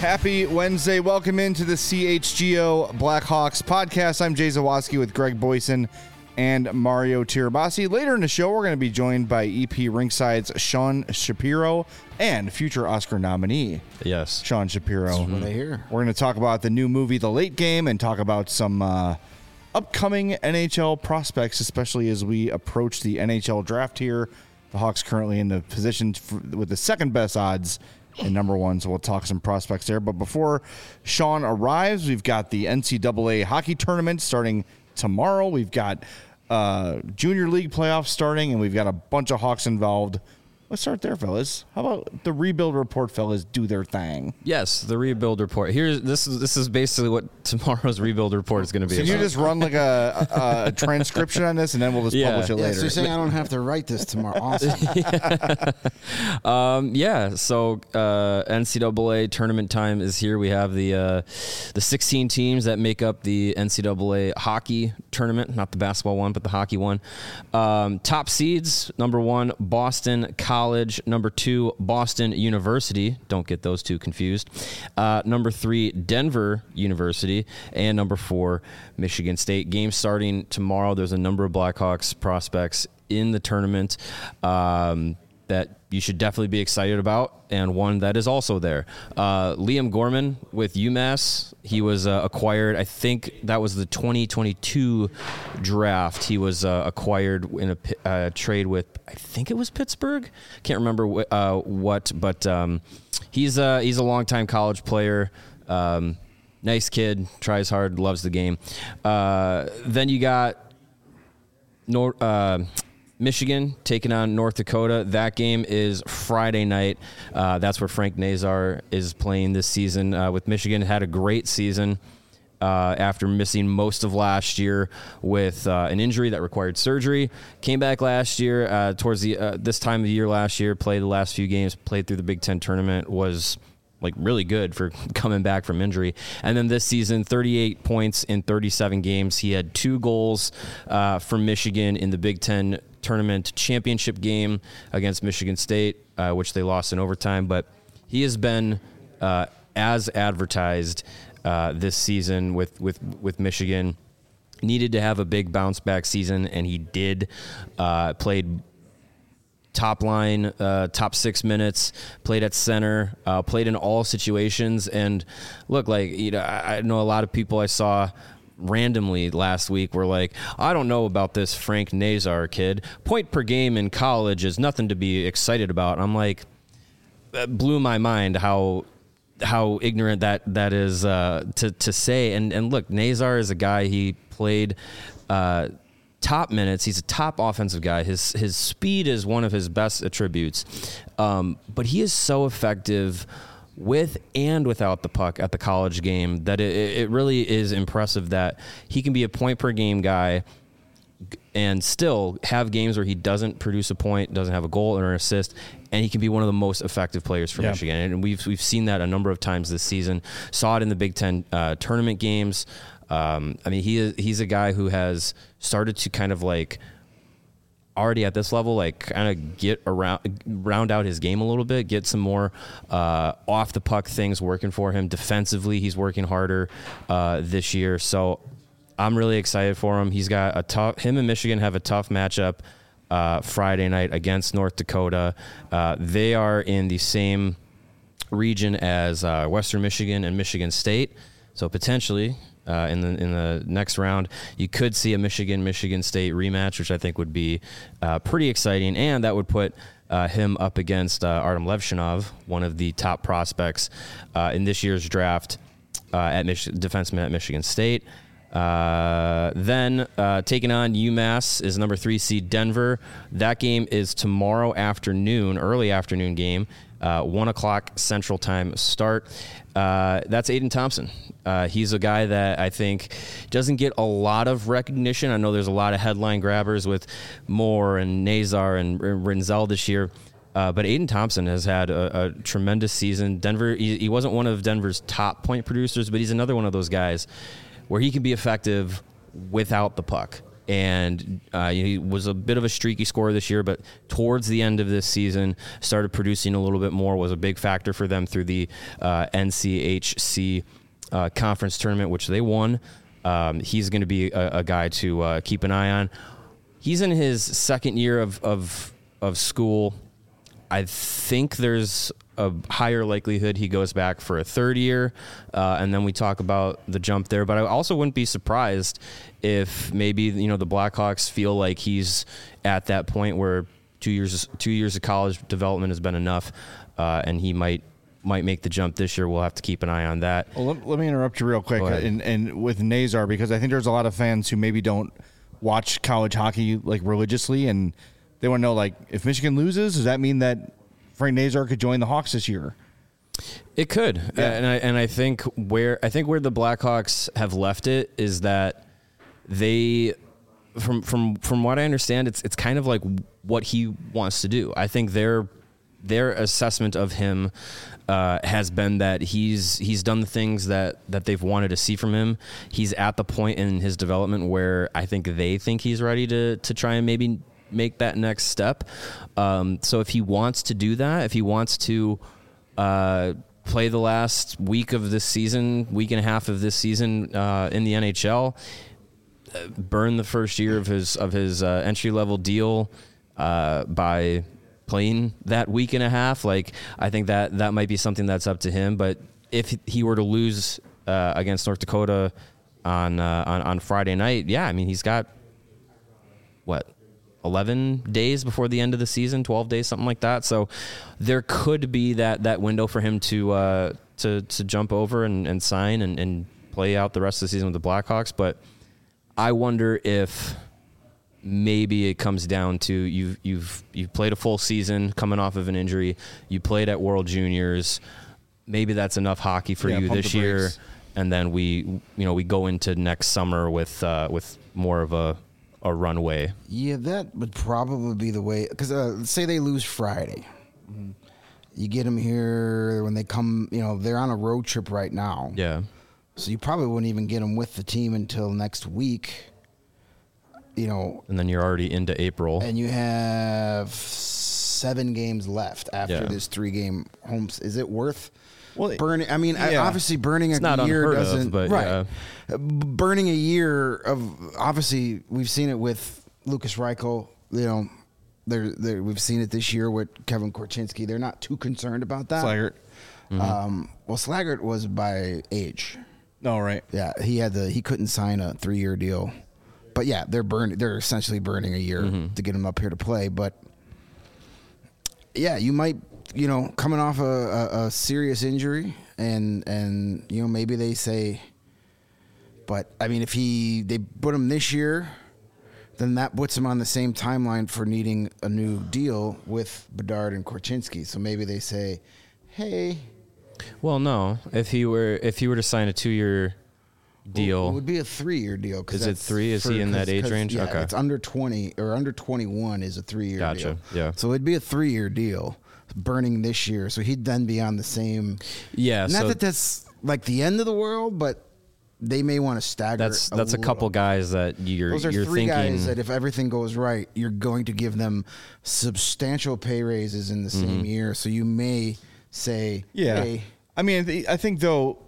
Happy Wednesday. Welcome into the CHGO Blackhawks podcast. I'm Jay Zawoski with Greg Boyson and Mario Tirabassi. Later in the show, we're going to be joined by EP Ringside's Sean Shapiro and future Oscar nominee. Yes. Sean Shapiro. That's what I hear. We're going to talk about the new movie, The Late Game, and talk about some upcoming NHL prospects, especially as we approach the NHL draft here. The Hawks currently in the position with the second best odds and number one, so we'll talk some prospects there. But before Sean arrives, we've got the NCAA hockey tournament starting tomorrow. We've got Junior League playoffs starting, and we've got a bunch of Hawks involved. Let's start there, fellas. How about the rebuild report, fellas? Do their thing. Yes, the rebuild report. This is basically what tomorrow's rebuild report is going to be. So you just run like a transcription on this, and then we'll just publish it later. So you're saying I don't have to write this tomorrow? Awesome. So NCAA tournament time is here. We have the 16 teams that make up the NCAA hockey tournament, not the basketball one, but the hockey one. Top seeds: number 1, Boston College. Number 2, Boston University. Don't get those two confused. Number 3, Denver University. And number 4, Michigan State. Game starting tomorrow. There's a number of Blackhawks prospects in the tournament that you should definitely be excited about, and one that is also there. Liam Gorman with UMass. He was acquired, I think that was the 2022 draft. He was acquired in a trade with, I think it was Pittsburgh. Can't remember what, but he's a longtime college player. Nice kid, tries hard, loves the game. Then you got Michigan taking on North Dakota. That game is Friday night. That's where Frank Nazar is playing this season with Michigan. Had a great season after missing most of last year with an injury that required surgery. Came back last year towards the this time of the year last year, played the last few games, played through the Big Ten tournament, was like really good for coming back from injury. And then this season, 38 points in 37 games. He had 2 goals for Michigan in the Big Ten tournament championship game against Michigan State, which they lost in overtime. But he has been as advertised this season with Michigan. Needed to have a big bounce back season, and he did. Played top line, top 6 minutes, played at center, played in all situations. And look, like, you know, I know a lot of people I saw randomly last week were like, I don't know about this Frank Nazar kid. Point per game in college is nothing to be excited about. I'm like, that blew my mind how ignorant that is to say. And look, Nazar is a guy, he played top minutes. He's a top offensive guy. His speed is one of his best attributes. But he is so effective with and without the puck at the college game that it really is impressive that he can be a point per game guy and still have games where he doesn't produce a point, doesn't have a goal or an assist, and he can be one of the most effective players for Michigan. And we've seen that a number of times this season. Saw it in the Big Ten tournament games. I mean, he's a guy who has started to kind of like already at this level, like kind of round out his game a little bit, get some more off the puck things working for him. Defensively, he's working harder this year. So I'm really excited for him. He's got him and Michigan have a tough matchup Friday night against North Dakota. They are in the same region as Western Michigan and Michigan State. So potentially in the next round, you could see a Michigan State rematch, which I think would be pretty exciting, and that would put him up against Artem Levshinov, one of the top prospects in this year's draft defenseman at Michigan State. Then taking on UMass is number 3 seed Denver. That game is tomorrow afternoon, early afternoon game, 1 o'clock Central Time start. That's Aiden Thompson. He's a guy that I think doesn't get a lot of recognition. I know there's a lot of headline grabbers with Moore and Nazar and Rinzel this year. But Aiden Thompson has had a tremendous season. Denver, he wasn't one of Denver's top point producers, but he's another one of those guys where he can be effective without the puck. And he was a bit of a streaky scorer this year, but towards the end of this season, started producing a little bit more, was a big factor for them through the NCHC conference tournament, which they won. He's going to be a guy to keep an eye on. He's in his second year of school. I think there's a higher likelihood he goes back for a third year, and then we talk about the jump there. But I also wouldn't be surprised if maybe the Blackhawks feel like he's at that point where 2 years of college development has been enough, and he might make the jump this year. We'll have to keep an eye on that. Well, let me interrupt you real quick, and with Nazar, because I think there's a lot of fans who maybe don't watch college hockey like religiously, and they want to know, like, if Michigan loses, does that mean that Frank Nazar could join the Hawks this year? It could, and I think where the Blackhawks have left it is that they, from what I understand, it's kind of like what he wants to do. I think their assessment of him has been that he's done the things that they've wanted to see from him. He's at the point in his development where I think they think he's ready to try and maybe make that next step. So if he wants to do that, if he wants to play the last week and a half of this season in the NHL, burn the first year of his entry level deal by playing that week and a half, like, I think that might be something that's up to him. But if he were to lose against North Dakota on Friday night, I mean, he's got 11 days before the end of the season, 12 days, something like that. So there could be that window for him to jump over and sign and play out the rest of the season with the Blackhawks. But I wonder if maybe it comes down to you've played a full season coming off of an injury. You played at World Juniors. Maybe that's enough hockey for you this year, and then we go into next summer with more of a runway. Yeah, that would probably be the way. Because say they lose Friday, you get them here when they come. They're on a road trip right now. Yeah. So you probably wouldn't even get them with the team until next week. And then you're already into April. And you have 7 games left after this 3-game home. Is it worth burning? I mean, obviously burning it's a year doesn't. But right. Burning a year of, obviously, we've seen it with Lucas Reichel. We've seen it this year with Kevin Korchinski. They're not too concerned about that. Slaggert. Slaggert was by age. Oh, right. Yeah, he couldn't sign a 3-year deal. But yeah, they're essentially burning a year to get him up here to play. But yeah, you might, coming off a serious injury, and maybe they say, but I mean, if they put him this year, then that puts him on the same timeline for needing a new deal with Bedard and Korchinski. So maybe they say, hey. Well, no, if he were to sign a 2-year deal. It would be a 3-year deal. Is it 3? Is he in that age range? Yeah, okay. It's under 20 or under 21 is a 3-year deal. Gotcha. Yeah. So it'd be a 3-year deal, burning this year. So he'd then be on the same. Yeah. Not that that's like the end of the world, but they may want to stagger. That's a couple guys that Those are you're 3 thinking, guys that if everything goes right, you're going to give them substantial pay raises in the same year. So you may say, hey. I mean, I think though.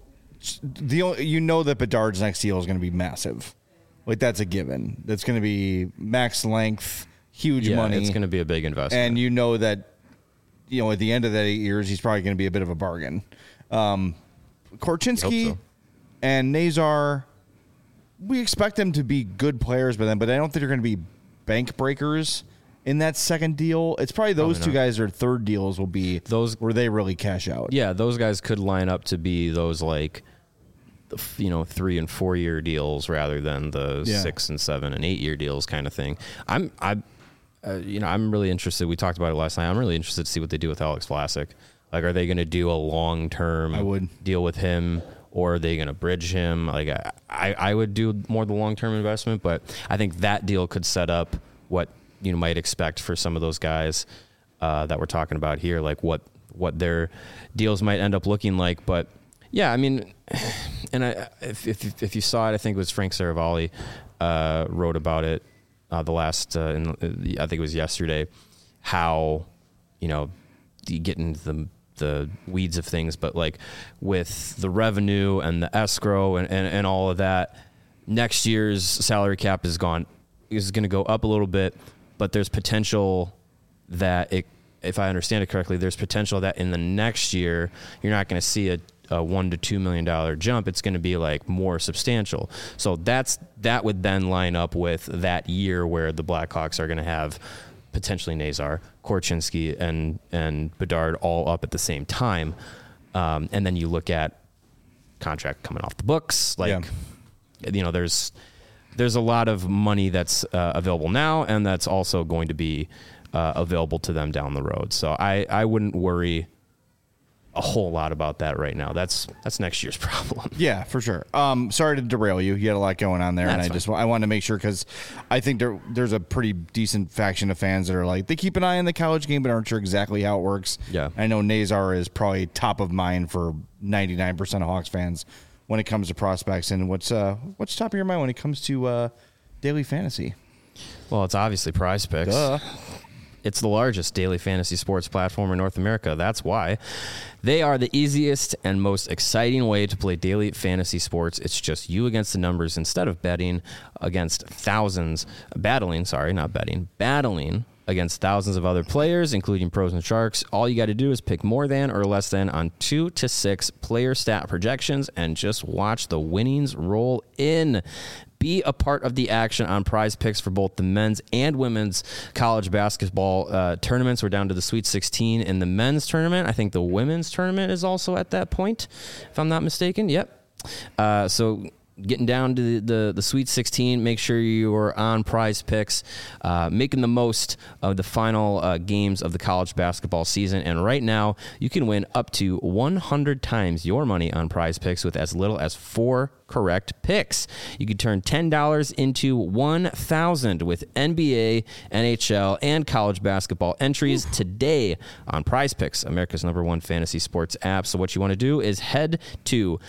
That Bedard's next deal is going to be massive. Like, that's a given. That's going to be max length, huge money. It's going to be a big investment. And that, at the end of that 8 years, he's probably going to be a bit of a bargain. Korchinski and Nazar, we expect them to be good players by then, but I don't think they're going to be bank breakers in that second deal. It's probably those two guys, their third deals will be those where they really cash out. Yeah, those guys could line up to be those 3 and 4 year deals rather than the 6 and 7 and 8 year deals kind of thing. I'm really interested. We talked about it last night. I'm really interested to see what they do with Alex Vlasic. Like, are they going to do a long-term deal with him, or are they going to bridge him? Like, I would do more the long-term investment, but I think that deal could set up what you might expect for some of those guys that we're talking about here, like what their deals might end up looking like. But Yeah, I mean, and if you saw it, I think it was Frank Saravalli wrote about it the last, I think it was yesterday, how, you get into the weeds of things, but like with the revenue and the escrow and all of that, next year's salary cap is going to go up a little bit, but there's potential that if I understand it correctly, there's potential that in the next year, you're not going to see a $1 to $2 million jump. It's going to be like more substantial. So that would then line up with that year where the Blackhawks are going to have potentially Nazar, Korchinski, and Bedard all up at the same time. And then you look at contract coming off the books. There's a lot of money that's available now, and that's also going to be available to them down the road. So I wouldn't worry a whole lot about that right now. That's next year's problem. Yeah, for sure. Sorry to derail you. You had a lot going on there, That's and I wanted to make sure because I think there's a pretty decent faction of fans that are like they keep an eye on the college game but aren't sure exactly how it works. Yeah, I know Nazar is probably top of mind for 99% of Hawks fans when it comes to prospects. And what's top of your mind when it comes to daily fantasy? Well, it's obviously Prize Picks. Duh. It's the largest daily fantasy sports platform in North America. That's why. They are the easiest and most exciting way to play daily fantasy sports. It's just you against the numbers instead of battling against thousands of other players, including pros and sharks. All you got to do is pick more than or less than on 2 to 6 player stat projections and just watch the winnings roll in. Be a part of the action on Prize Picks for both the men's and women's college basketball tournaments. We're down to the Sweet 16 in the men's tournament. I think the women's tournament is also at that point, if I'm not mistaken. Yep. So getting down to the Sweet 16, make sure you're on Prize Picks, making the most of the final games of the college basketball season. And right now, you can win up to 100 times your money on Prize Picks with as little as 4 correct picks. You can turn $10 into $1,000 with NBA, NHL, and college basketball entries today on Prize Picks, America's #1 fantasy sports app. So what you want to do is head to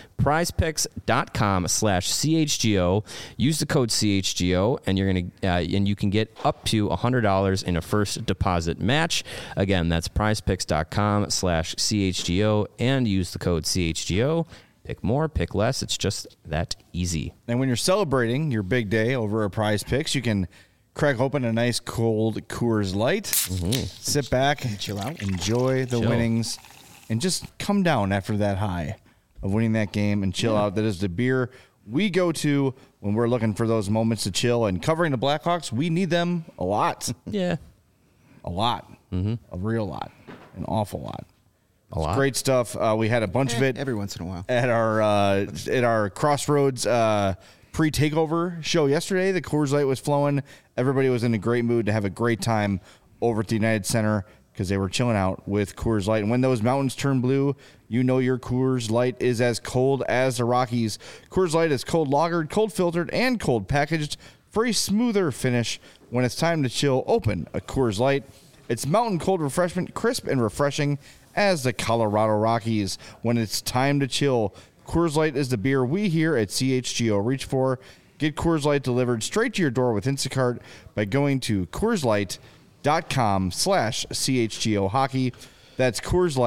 prizepicks.com/CHGO, use the code CHGO, and and you can get up to $100 in a first deposit match. Again, that's prizepicks.com/CHGO and use the code CHGO. Pick more, pick less. It's just that easy. And when you're celebrating your big day over at Prize Picks, you can crack open a nice cold Coors Light, sit back, and chill out, enjoy the winnings, and just come down after that high of winning that game and chill out. That is the beer we go to when we're looking for those moments to chill. And covering the Blackhawks, we need them a lot. Yeah. A lot. A real lot. An awful lot. A lot. Great stuff. We had a bunch of it every once in a while at our Crossroads pre-takeover show yesterday. The Coors Light was flowing. Everybody was in a great mood to have a great time over at the United Center because they were chilling out with Coors Light. And when those mountains turn blue, you know your Coors Light is as cold as the Rockies. Coors Light is cold lagered, cold filtered, and cold packaged for a smoother finish. When it's time to chill, open a Coors Light. It's mountain cold refreshment, crisp and refreshing as the Colorado Rockies. When it's time to chill, Coors Light is the beer we here at CHGO reach for. Get Coors Light delivered straight to your door with Instacart by going to CoorsLight.com/CHGO hockey. That's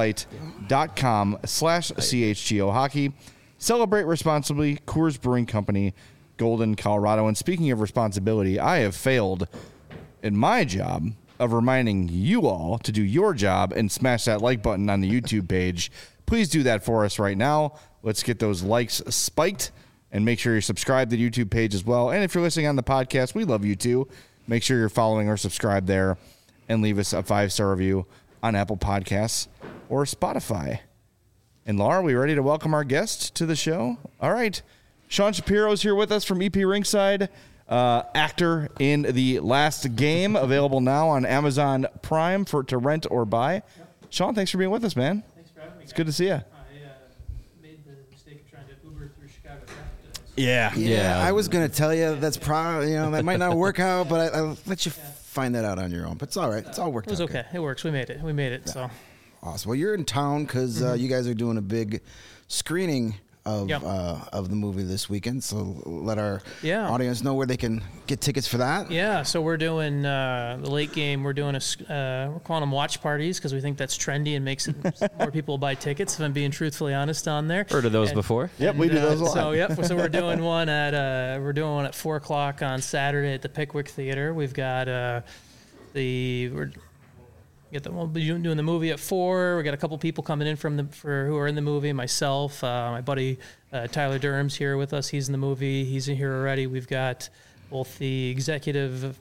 CoorsLight.com/CHGO hockey. Celebrate responsibly. Coors Brewing Company, Golden, Colorado. And speaking of responsibility, I have failed in my job of reminding you all to do your job and smash that like button on the YouTube page. Please do that for us right now. Let's get those likes spiked and make sure you're subscribed to the YouTube page as well. And if you're listening on the podcast, we love you too. Make sure you're following or subscribed there and leave us a 5-star review on Apple Podcasts or Spotify. And Laura, are we ready to welcome our guest to the show? All right. Sean Shapiro's here with us from EP Ringside. Actor in The Last Game, available now on Amazon Prime to rent or buy. Yep. Sean, thanks for being with us, man. Thanks for having me. It's good to see you. I made the mistake of trying to Uber through Chicago traffic today. Yeah. I was gonna tell you that's probably that might not work out, but I'll let you find that out on your own. But it's all right. It's all worked out. It was okay. It works. We made it. Yeah. So awesome. Well, you're in town because you guys are doing a big screening of Yep. of the movie this weekend. So let our Yeah. audience know where they can get tickets for that. Yeah, so we're doing the late game. We're doing we're calling them watch parties because we think that's trendy and makes it more people buy tickets. If I'm being truthfully honest on there. Heard of those And- before? Yep, we do those a lot. So so we're doing one at 4:00 on Saturday at the Pickwick Theater. We've got we'll be doing the movie at 4. We got a couple people coming in who are in the movie. Myself, my buddy Tyler Durham's here with us. He's in the movie. He's in here already. We've got both the executive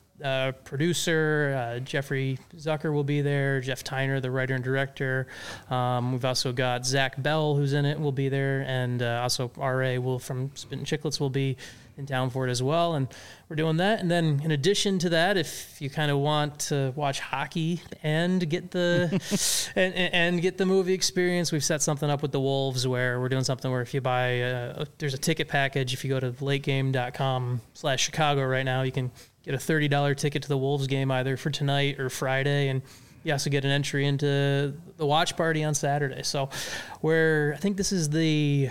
producer, Jeffrey Zucker will be there. Jeff Tyner, the writer and director. We've also got Zach Bell, who's in it, will be there, and also R.A. from Spittin' Chicklets will be in town for it as well. And we're doing that. And then in addition to that, if you kind of want to watch hockey and get the and get the movie experience, we've set something up with the Wolves where we're doing something where if you buy there's a ticket package. If you go to lategame.com/Chicago right now, you can get a $30 ticket to the Wolves game either for tonight or Friday, and you also get an entry into the watch party on Saturday. So I think this is we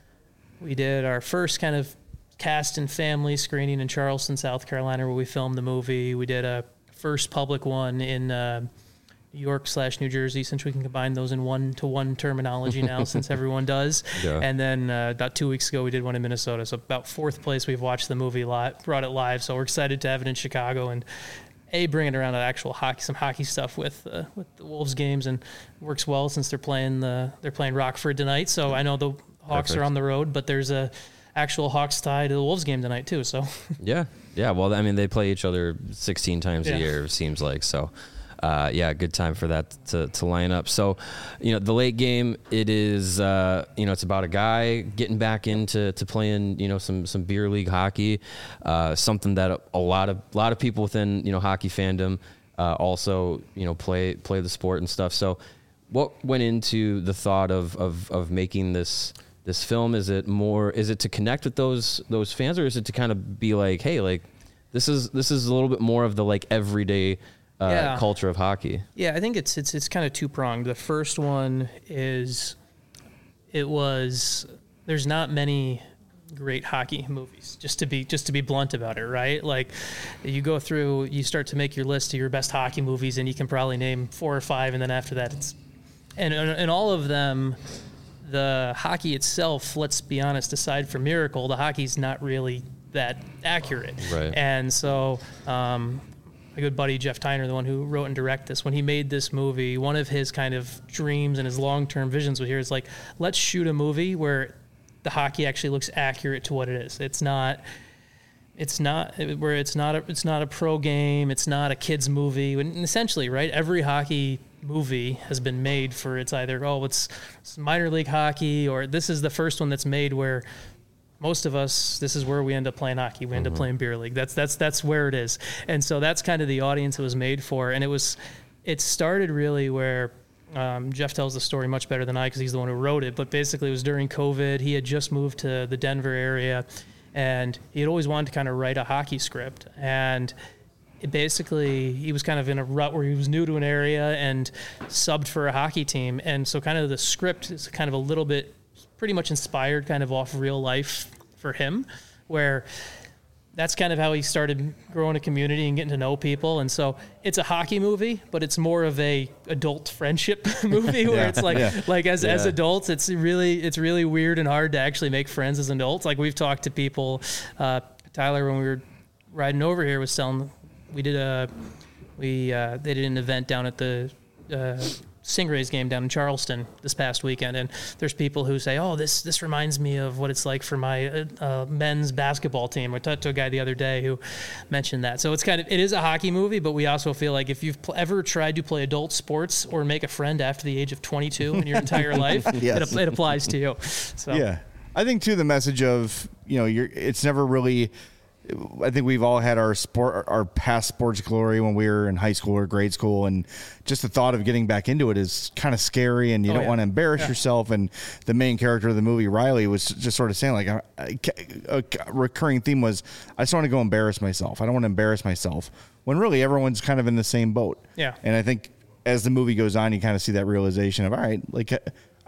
did our first kind of cast and family screening in Charleston, South Carolina, where we filmed the movie. We did a first public one in New York/New Jersey, since we can combine those in one-to-one terminology now, since everyone does. Yeah. And then about 2 weeks ago, we did one in Minnesota. So about fourth place we've watched the movie live, brought it live. So we're excited to have it in Chicago and bring it around to actual hockey, some hockey stuff with the Wolves games, and it works well since they're playing Rockford tonight. So I know the Hawks Perfect. are on the road, but there's a actual Hawks tie to the Wolves game tonight too. So Yeah. Well, I mean, they play each other 16 times Yeah. a year, it seems like. So, good time for that to line up. So, the late game, it is, it's about a guy getting back into playing, some beer league hockey, something that a lot of people within, hockey fandom, also, play the sport and stuff. So what went into the thought of making this film? Is it to connect with those fans, or is it to kind of be like, hey, like this is a little bit more of the like everyday culture of hockey? yeah, I think it's kind of two-pronged. The first one is there's not many great hockey movies, just to be blunt about it, right? Like you go through, you start to make your list of your best hockey movies, and you can probably name 4 or 5, and then after that and all of them, the hockey itself, let's be honest, aside from Miracle, the hockey's not really that accurate. Right. And so my good buddy Jeff Tyner, the one who wrote and directed this, when he made this movie, one of his kind of dreams and his long-term visions was here is like, let's shoot a movie where the hockey actually looks accurate to what it is. It's not a pro game. It's not a kids movie. And essentially, right, every hockey movie has been made for it's minor league hockey, or this is the first one that's made where most of us, this is where we end up playing hockey. We end up playing beer league. That's where it is. And so that's kind of the audience it was made for. And it started really where Jeff tells the story much better than I, because he's the one who wrote it. But basically it was during COVID. He had just moved to the Denver area, and he had always wanted to kind of write a hockey script. And he was kind of in a rut where he was new to an area and subbed for a hockey team. And so kind of the script is kind of a little bit pretty much inspired kind of off real life for him, where that's kind of how he started growing a community and getting to know people. And so it's a hockey movie, but it's more of a adult friendship movie where it's like as adults, it's really weird and hard to actually make friends as adults. Like we've talked to people, Tyler, when we were riding over here, was telling, they did an event down at the Stingrays game down in Charleston this past weekend, and there's people who say, "Oh, this reminds me of what it's like for my men's basketball team." I talked to a guy the other day who mentioned that. So it is a hockey movie, but we also feel like if you've ever tried to play adult sports or make a friend after the age of 22 in your entire life, Yes. it applies to you. So Yeah. I think too, the message of, it's never really, I think we've all had our past sports glory when we were in high school or grade school, and just the thought of getting back into it is kind of scary, and you don't want to embarrass yourself. And the main character of the movie, Riley, was just sort of saying like a recurring theme was, I just want to go embarrass myself. I don't want to embarrass myself, when really everyone's kind of in the same boat. Yeah. And I think as the movie goes on, you kind of see that realization of, all right, like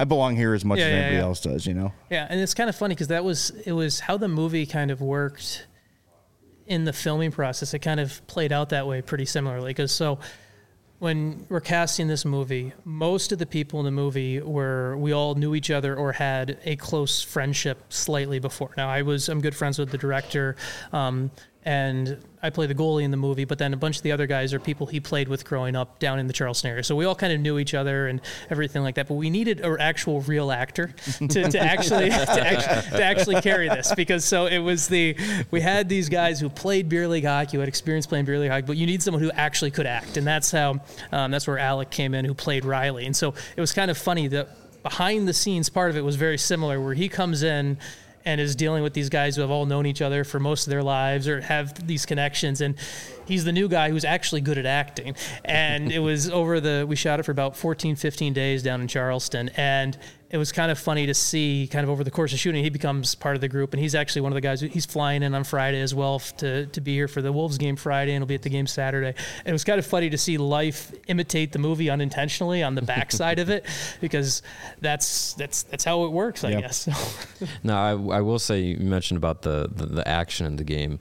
I belong here as much Yeah, as yeah, anybody yeah. else does, you know? Yeah, and it's kind of funny because it was how the movie kind of worked in the filming process. It kind of played out that way pretty similarly. Because so when we're casting this movie, most of the people in the movie we all knew each other or had a close friendship slightly before. Now I'm good friends with the director, and I play the goalie in the movie, but then a bunch of the other guys are people he played with growing up down in the Charleston area. So we all kind of knew each other and everything like that. But we needed an actual real actor to actually carry this, because so it was we had these guys who played beer league hockey, who had experience playing beer league hockey, but you need someone who actually could act, and that's where Alec came in, who played Riley. And so it was kind of funny that behind the scenes part of it was very similar, where he comes in and is dealing with these guys who have all known each other for most of their lives or have these connections. And he's the new guy who's actually good at acting. And it was we shot it for about 14, 15 days down in Charleston. And it was kind of funny to see kind of over the course of shooting, he becomes part of the group. And he's actually one of the guys, he's flying in on Friday as well to be here for the Wolves game Friday, and he'll be at the game Saturday. And it was kind of funny to see life imitate the movie unintentionally on the backside of it, because that's how it works, I guess. No, I will say, you mentioned about the action in the game.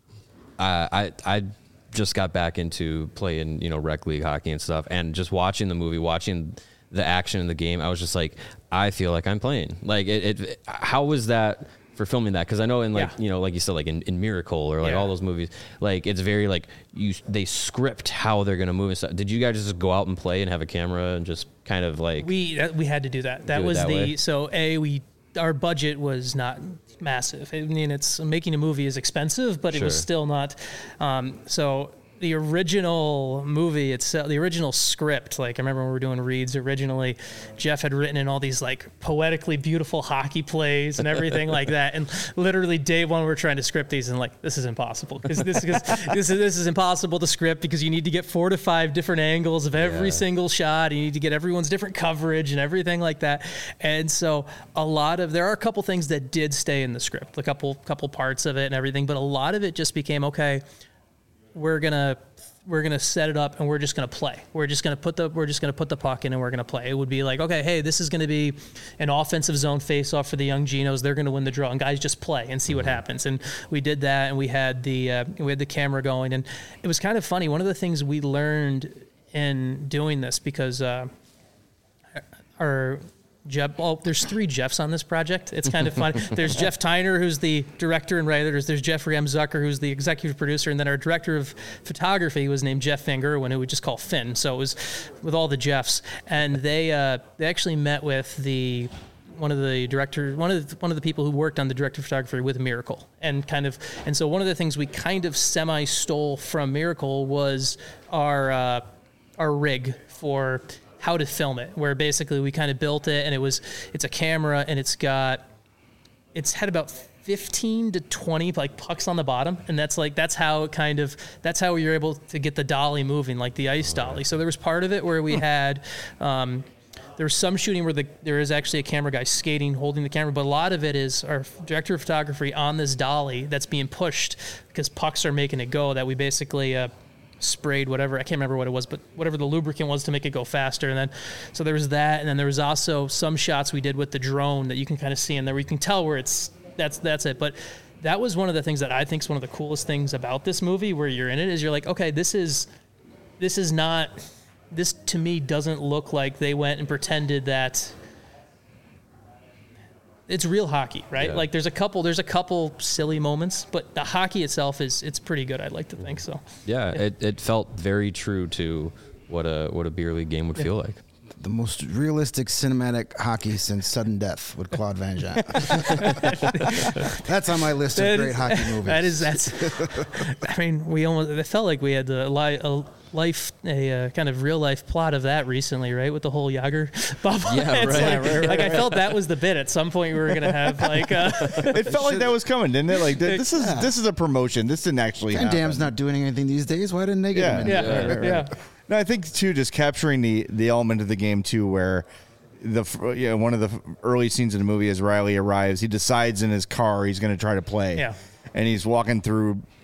I just got back into playing, rec league hockey and stuff, and just watching the movie, watching the action in the game, I was just like, I feel like I'm playing. Like how was that for filming that? Because I know in like you said, like in Miracle or like all those movies, like it's very like they script how they're gonna move and stuff. Did you guys just go out and play and have a camera and just kind of like we had to do that? That was our budget was not massive. I mean, making a movie is expensive, but it was still not. So the original movie itself, the original script, like I remember when we were doing reads originally, Jeff had written in all these like poetically beautiful hockey plays and everything like that. And literally day one, we're trying to script these and like, this is impossible, because this is impossible to script, because you need to get 4 to 5 different angles of every single shot. You need to get everyone's different coverage and everything like that. And so there are a couple things that did stay in the script, a couple parts of it and everything, but a lot of it just became, okay, we're gonna set it up and we're just gonna play. We're just gonna put the puck in and we're gonna play. It would be like, okay, hey, this is gonna be an offensive zone face-off for the young Genos. They're gonna win the draw, and guys just play and see what happens. And we did that, and we had the camera going, and it was kind of funny. One of the things we learned in doing this, because there's 3 Jeffs on this project. It's kind of fun. There's Jeff Tyner, who's the director and writer. There's Jeffrey M. Zucker, who's the executive producer. And then our director of photography was named Jeff Finger, who we just call Finn. So it was with all the Jeffs. And they actually met with one of the people who worked on the director of photography with Miracle. And so one of the things we kind of semi-stole from Miracle was our rig for how to film it, where basically we kind of built it, and it's a camera, and it's had about 15 to 20 like pucks on the bottom, and that's how you're able to get the dolly moving, like the ice dolly. So there was part of it where we had there was some shooting where there is actually a camera guy skating, holding the camera, but a lot of it is our director of photography on this dolly that's being pushed because pucks are making it go, that we basically sprayed whatever, I can't remember what it was, but whatever the lubricant was to make it go faster. And then, so there was that. And then there was also some shots we did with the drone that you can kind of see in there where you can tell where that's it. But that was one of the things that I think is one of the coolest things about this movie, where you're in it, is you're like, okay, this to me doesn't look like they went and pretended that it's real hockey, right? Yeah. Like there's a couple silly moments, but the hockey itself it's pretty good. I'd like to think so. Yeah, it felt very true to what a beer league game would feel like. The most realistic cinematic hockey since Sudden Death with Claude Van Damme. That's on my list of great hockey movies. I mean, it felt like we had a kind of real life plot of that recently, right? With the whole Yager bubble. Yeah, right. I felt that was the bit. At some point, we were going to have like. It felt like that was coming, didn't it? Like this is a promotion. This didn't actually happen. Van Damme's not doing anything these days. Why didn't they get him in? Yeah. No, I think too, just capturing the element of the game too, where one of the early scenes in the movie, as Riley arrives, he decides in his car he's going to try to play. Yeah. And he's walking through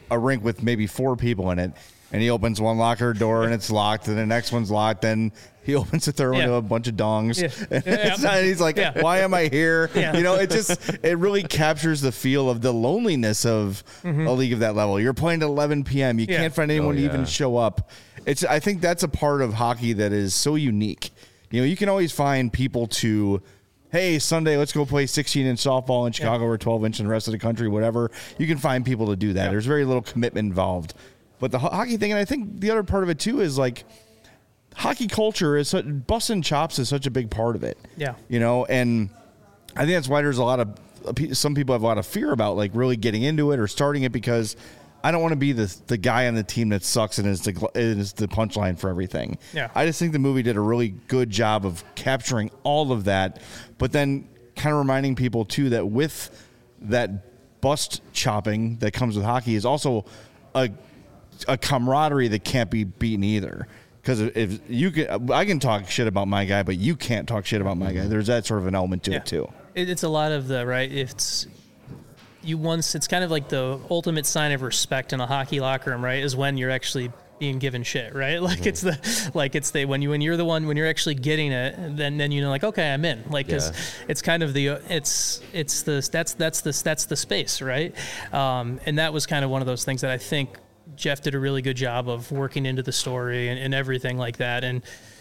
a rink with maybe 4 people in it, and he opens one locker door and it's locked, and the next one's locked. Then he opens the third one to a bunch of dongs. Yeah. And he's like, why am I here? Yeah. You know, it really captures the feel of the loneliness of a league of that level. You're playing at 11 p.m. You can't find anyone to even show up. I think that's a part of hockey that is so unique. You know, you can always find people to, hey, Sunday, let's go play 16-inch softball in Chicago or 12-inch in the rest of the country, whatever. You can find people to do that. There's very little commitment involved. But the hockey thing, and I think the other part of it too is like hockey culture is busting chops is such a big part of it. Yeah. You know, and I think that's why there's some people have a lot of fear about like really getting into it or starting it, because I don't want to be the guy on the team that sucks and is the punchline for everything. Yeah. I just think the movie did a really good job of capturing all of that, but then kind of reminding people too that with that bust chopping that comes with hockey is also a camaraderie that can't be beaten either. Because if you can, I can talk shit about my guy, but you can't talk shit about my guy. There's that sort of an element to it too. It's a lot of it's kind of like the ultimate sign of respect in a hockey locker room, right? Is when you're actually being given shit, right? Like when you're the one, when you're actually getting it, then you know, like, okay, I'm in, like, cause it's kind of that's the space, right? And that was kind of one of those things that I think Jeff did a really good job of working into the story and everything like that. And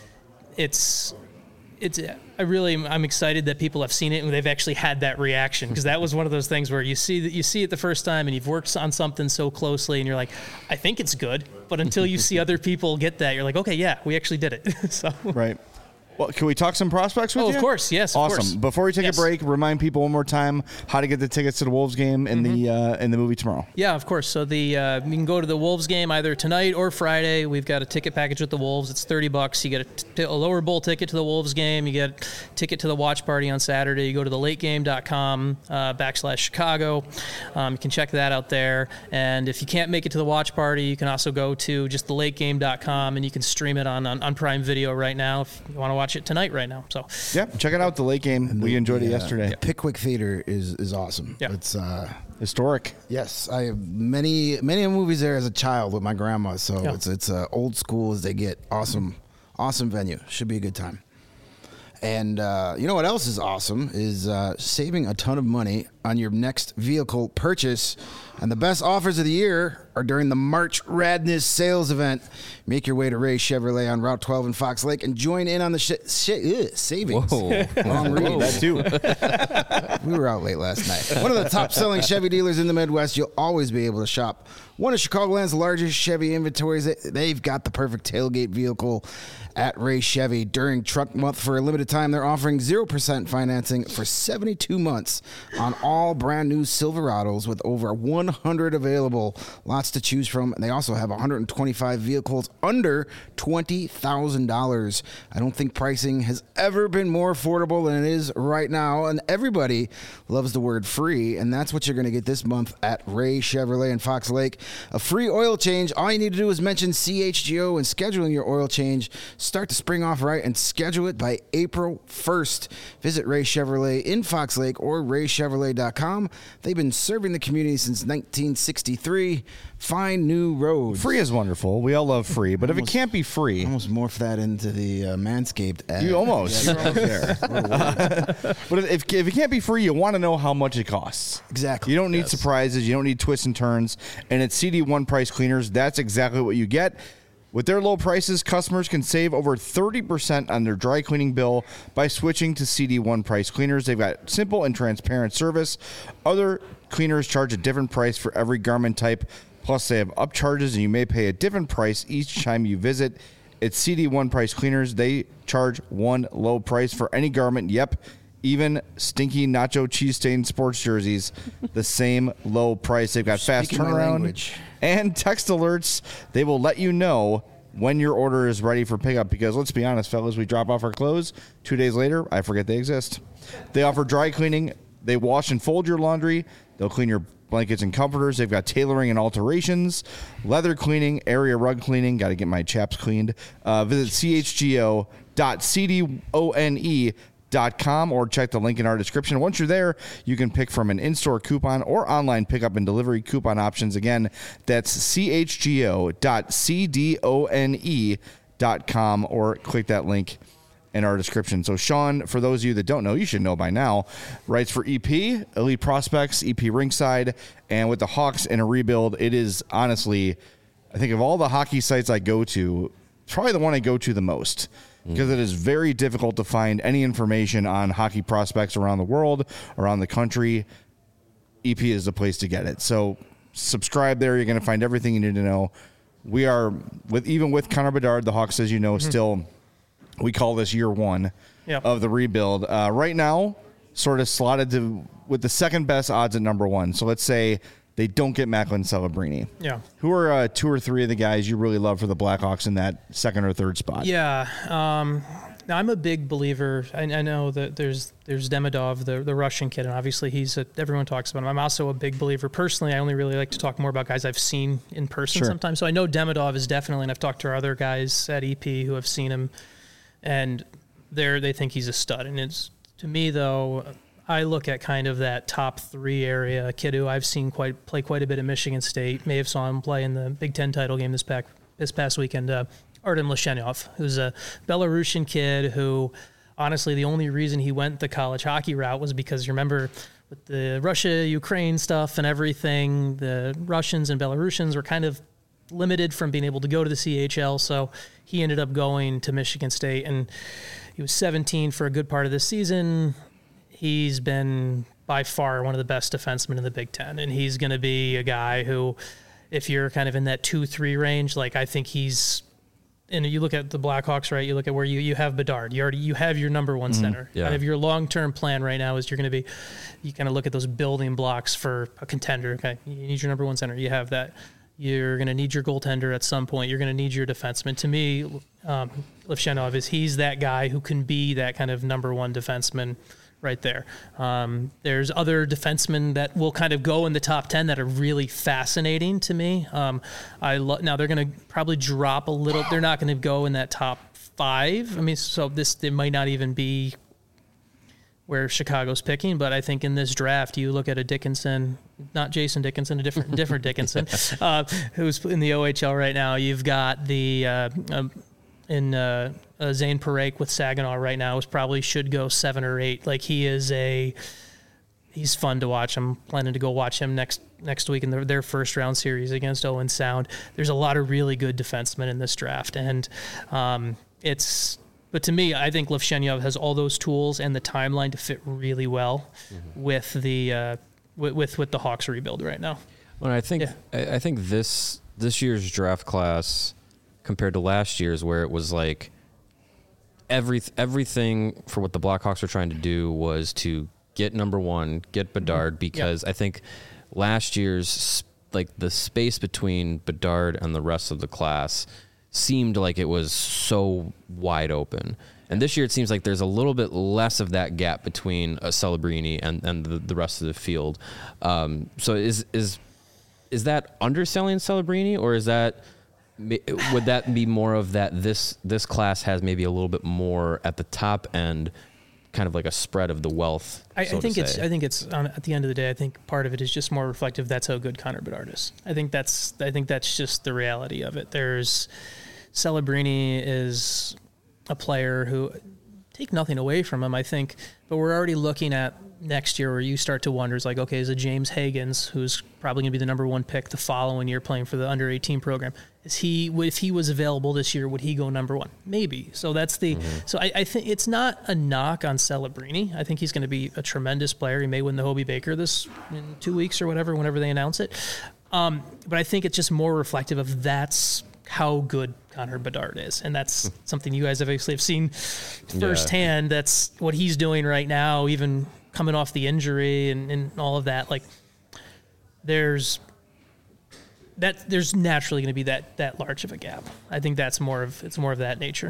I'm excited that people have seen it and they've actually had that reaction, because that was one of those things where you see it the first time and you've worked on something so closely and you're like, I think it's good, but until you see other people get that, you're like, okay, yeah, we actually did it. So right. Well, can we talk some prospects with you? Oh, of course. Yes, awesome. Of course. Before we take a break, remind people one more time how to get the tickets to the Wolves game in the movie tomorrow. Yeah, of course. So you can go to the Wolves game either tonight or Friday. We've got a ticket package with the Wolves. It's $30. You get a lower bowl ticket to the Wolves game. You get a ticket to the watch party on Saturday. You go to thelategame.com /Chicago. You can check that out there. And if you can't make it to the watch party, you can also go to just thelategame.com and you can stream it on Prime Video right now if you want to watch it tonight right now. So yeah, check it out, the late game. We enjoyed it yesterday. Pickwick Theater is awesome. Yeah. It's historic. Yes, I have many movies there as a child with my grandma. So it's old school as they get. Awesome venue. Should be a good time. And you know what else is awesome is saving a ton of money on your next vehicle purchase. And the best offers of the year are during the March Radness sales event. Make your way to Ray Chevrolet on Route 12 in Fox Lake and join in on the savings. Whoa. Long read. That too. We were out late last night. One of the top-selling Chevy dealers in the Midwest. You'll always be able to shop one of Chicagoland's largest Chevy inventories. They've got the perfect tailgate vehicle at Ray Chevy. During Truck Month, for a limited time, they're offering 0% financing for 72 months on all brand new Silverados with over 100 available. Lots to choose from. And they also have 125 vehicles under $20,000. I don't think pricing has ever been more affordable than it is right now. And everybody loves the word free. And that's what you're going to get this month at Ray Chevrolet in Fox Lake. A free oil change. All you need to do is mention CHGO when scheduling your oil change. Start the spring off right and schedule it by April 1st. Visit Ray Chevrolet in Fox Lake or raychevrolet.com. They've been serving the community since 1963. Find new roads. Free is wonderful. We all love free, but if it can't be free, almost morph that into the Manscaped ad. You're almost there. But if it can't be free, you want to know how much it costs. Exactly. You don't need surprises. You don't need twists and turns. And at CD1 Price Cleaners, that's exactly what you get. With their low prices, customers can save over 30% on their dry cleaning bill by switching to CD1 Price Cleaners. They've got simple and transparent service. Other cleaners charge a different price for every garment type. Plus, they have upcharges, and you may pay a different price each time you visit. At CD1 Price Cleaners, they charge one low price for any garment. Yep, even stinky nacho cheese stained sports jerseys, the same low price. They've got fast turnaround and text alerts. They will let you know when your order is ready for pickup, because let's be honest, fellas, we drop off our clothes 2 days later, I forget they exist. They offer dry cleaning. They wash and fold your laundry. They'll clean your blankets and comforters. They've got tailoring and alterations, leather cleaning, area rug cleaning. Got to get my chaps cleaned. Visit chgo.cdone.com .com or check the link in our description. Once you're there, you can pick from an in-store coupon or online pickup and delivery coupon options. Again, that's chgo.cdone.com or click that link in our description. So Sean, for those of you that don't know, you should know by now, writes for EP, Elite Prospects, EP Ringside, and with the Hawks in a rebuild, it is honestly, I think of all the hockey sites I go to, probably the one I go to the most. Because it is very difficult to find any information on hockey prospects around the world, around the country. EP is the place to get it. So subscribe there. You're going to find everything you need to know. We are, even with Connor Bedard, the Hawks, as you know, still, we call this year one of the rebuild. Right now, sort of slotted with the second best odds at number one. So let's say they don't get Macklin Celebrini. Yeah. Who are two or three of the guys you really love for the Blackhawks in that second or third spot? Yeah. Now I'm a big believer. I know that there's Demidov, the Russian kid, and obviously everyone talks about him. I'm also a big believer. Personally, I only really like to talk more about guys I've seen in person sometimes. So I know Demidov is definitely, and I've talked to our other guys at EP who have seen him, and they think he's a stud. And it's, to me, though, I look at kind of that top three area. A kid who I've seen play quite a bit at Michigan State. May have saw him play in the Big Ten title game this past weekend. Artem Lashenyov, who's a Belarusian kid who, honestly, the only reason he went the college hockey route was because, you remember, with the Russia-Ukraine stuff and everything, the Russians and Belarusians were kind of limited from being able to go to the CHL, so he ended up going to Michigan State, and he was 17 for a good part of the season. He's been by far one of the best defensemen in the Big Ten, and he's going to be a guy who, if you're kind of in that 2-3 range, like I think he's, and you look at the Blackhawks, right? You look at where you have Bedard. You have your number one center. Yeah. Kind of your long-term plan right now is you kind of look at those building blocks for a contender. Okay, you need your number one center. You have that. You're going to need your goaltender at some point. You're going to need your defenseman. To me, Levshenov he's that guy who can be that kind of number one defenseman right there. There's other defensemen that will kind of go in the top 10 that are really fascinating to me. Now they're going to probably drop a little. They're not going to go in that top 5. I mean, so it might not even be where Chicago's picking, but I think in this draft, you look at a Dickinson, not Jason Dickinson, a different Dickinson, who's in the OHL right now. You've got the Zane Parekh with Saginaw right now probably should go 7 or 8. Like he's fun to watch. I'm planning to go watch him next week in their first round series against Owen Sound. There's a lot of really good defensemen in this draft, and but to me, I think Levshenyov has all those tools and the timeline to fit really well with the with the Hawks rebuild right now. Well, I think this year's draft class compared to last year's, where it was like everything for what the Blackhawks were trying to do was to get number one, get Bedard, because I think last year's, like, the space between Bedard and the rest of the class seemed like it was so wide open. And this year it seems like there's a little bit less of that gap between Celebrini and the rest of the field. So is that underselling Celebrini, or would that be more of that this class has maybe a little bit more at the top end, kind of like a spread of the wealth? I think it's at the end of the day, I think part of it is just more reflective. That's how good Connor Bedard is. I think that's just the reality of it. Celebrini is a player who, take nothing away from him, I think, but we're already looking at next year where you start to wonder, like, okay, is it James Higgins, who's probably going to be the number one pick the following year playing for the under 18 program? If he was available this year, would he go number one? Maybe. So that's so I think it's not a knock on Celebrini. I think he's going to be a tremendous player. He may win the Hobey Baker in 2 weeks or whenever they announce it. But I think it's just more reflective of that's how good Connor Bedard is. And that's something you guys obviously have seen firsthand. Yeah. That's what he's doing right now, even coming off the injury and all of that. Like, there's naturally going to be that large of a gap. I think it's more of that nature.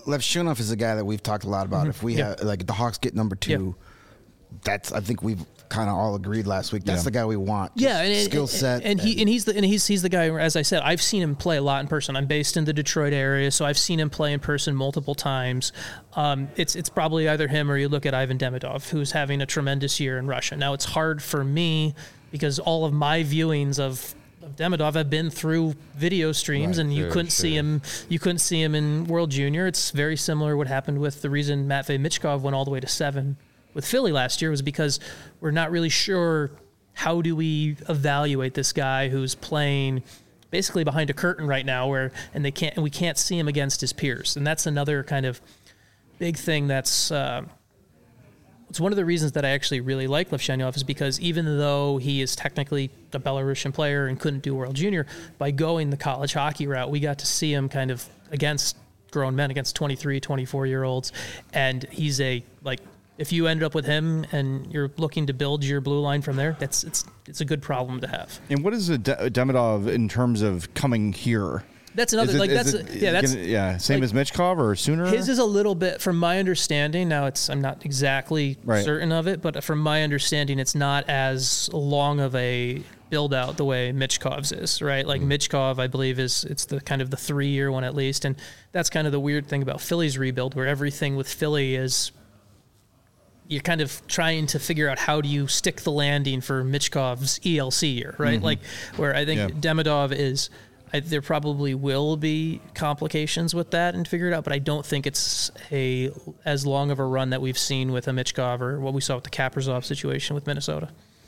Levshenyov is a guy that we've talked a lot about. If we have, like, the Hawks get number 2, I think we've kind of all agreed last week. That's the guy we want. Yeah, and skill set, he's the guy. As I said, I've seen him play a lot in person. I'm based in the Detroit area, so I've seen him play in person multiple times. It's probably either him or you look at Ivan Demidov, who's having a tremendous year in Russia. Now it's hard for me because all of my viewings of Demidov have been through video streams, and you couldn't see him. You couldn't see him in World Junior. It's very similar what happened with the reason Matvei Michkov went all the way to 7 with Philly last year was because we're not really sure how do we evaluate this guy who's playing basically behind a curtain right now, we can't see him against his peers, and that's another kind of big thing that's. It's one of the reasons that I actually really like Levshanyov is because even though he is technically a Belarusian player and couldn't do World Junior, by going the college hockey route, we got to see him kind of against grown men, against 23, 24-year-olds. And he's if you ended up with him and you're looking to build your blue line from there, it's a good problem to have. And what is Demidov in terms of coming here? That's another same as Michkov or sooner. His is a little bit, from my understanding. Now I'm not exactly certain of it, but from my understanding, it's not as long of a build out the way Michkov's is, right? Like Michkov, I believe it's the kind of the 3-year one at least, and that's kind of the weird thing about Philly's rebuild, where everything with Philly is you're kind of trying to figure out how do you stick the landing for Michkov's ELC year, right? Like where I think Demidov is. There probably will be complications with that and figure it out, but I don't think it's as long of a run that we've seen with a Michkov or what we saw with the Kaprizov situation with Minnesota.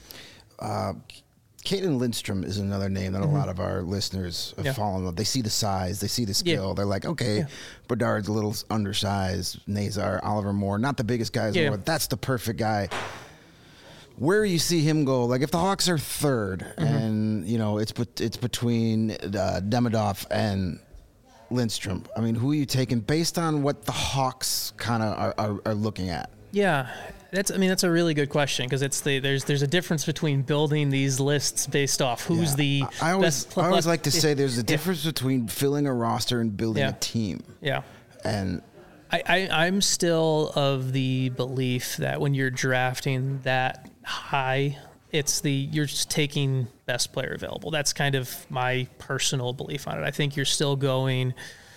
Caitlin Lindstrom is another name that a lot of our listeners have fallen with. They see the size, they see the skill. Yeah. They're like, okay, Bedard's a little undersized, Nazar, Oliver Moore, not the biggest guys in the world. That's the perfect guy. Where you see him go, like if the Hawks are third and, it's between Demidov and Lindstrom, I mean, who are you taking based on what the Hawks kind of are looking at? Yeah, that's a really good question because there's a difference between building these lists based off who's the I always like to say there's a difference between filling a roster and building a team. Yeah. And I'm still of the belief that when you're drafting that high, you're just taking best player available. That's kind of my personal belief on it. I think you're still going.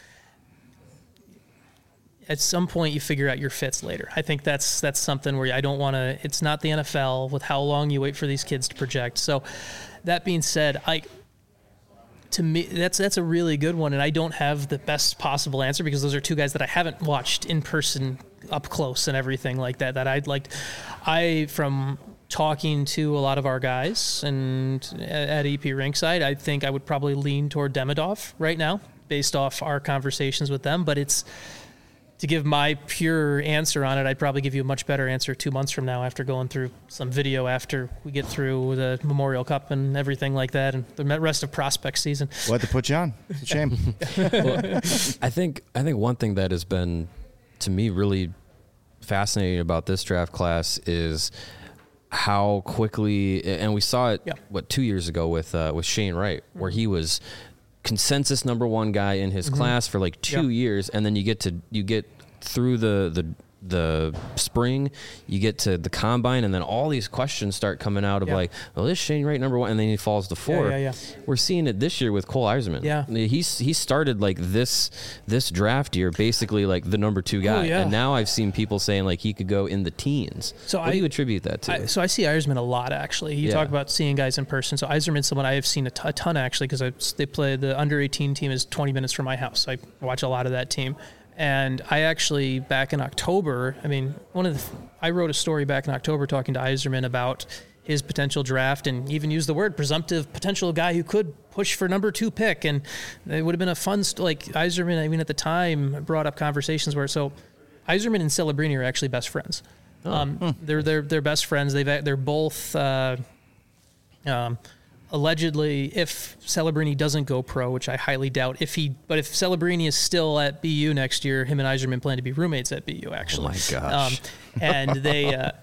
At some point, you figure out your fits later. I think that's something where I don't want to. It's not the NFL with how long you wait for these kids to project. So, that being said, to me, that's a really good one, and I don't have the best possible answer because those are two guys that I haven't watched in person up close and everything like that. That I'd like. From talking to a lot of our guys and at EP Rinkside, I think I would probably lean toward Demidov right now based off our conversations with them. But to give my pure answer on it, I'd probably give you a much better answer 2 months from now after going through some video after we get through the Memorial Cup and everything like that and the rest of prospect season. We'll have to put you on. It's a shame. Well, I think one thing that has been, to me, really fascinating about this draft class is how quickly, and we saw it 2 years ago with Shane Wright, where he was consensus number one guy in his class for like 2 years, and then you get through the spring, you get to the combine, and then all these questions start coming out of like, well, this Shane Wright number one, and then he falls to 4. We're seeing it this year with Cole Eiserman. He started like this draft year basically like the number 2 guy, and now I've seen people saying like he could go in the teens. So what do you attribute that to? So I see Eiserman a lot actually. You talk about seeing guys in person. So Eiserman's someone I have seen a ton actually because they play the under 18 team is 20 minutes from my house. I watch a lot of that team. And I actually, back in October, I wrote a story back in October talking to Eiserman about his potential draft and even used the word presumptive potential guy who could push for number 2 pick. And it would have been a fun, Eiserman, I mean, at the time brought up conversations where, so Eiserman and Celebrini are actually best friends. They're best friends. They're both, allegedly, if Celebrini doesn't go pro, which I highly doubt, if Celebrini is still at BU next year, him and Eiserman plan to be roommates at BU, actually. Oh my gosh. And they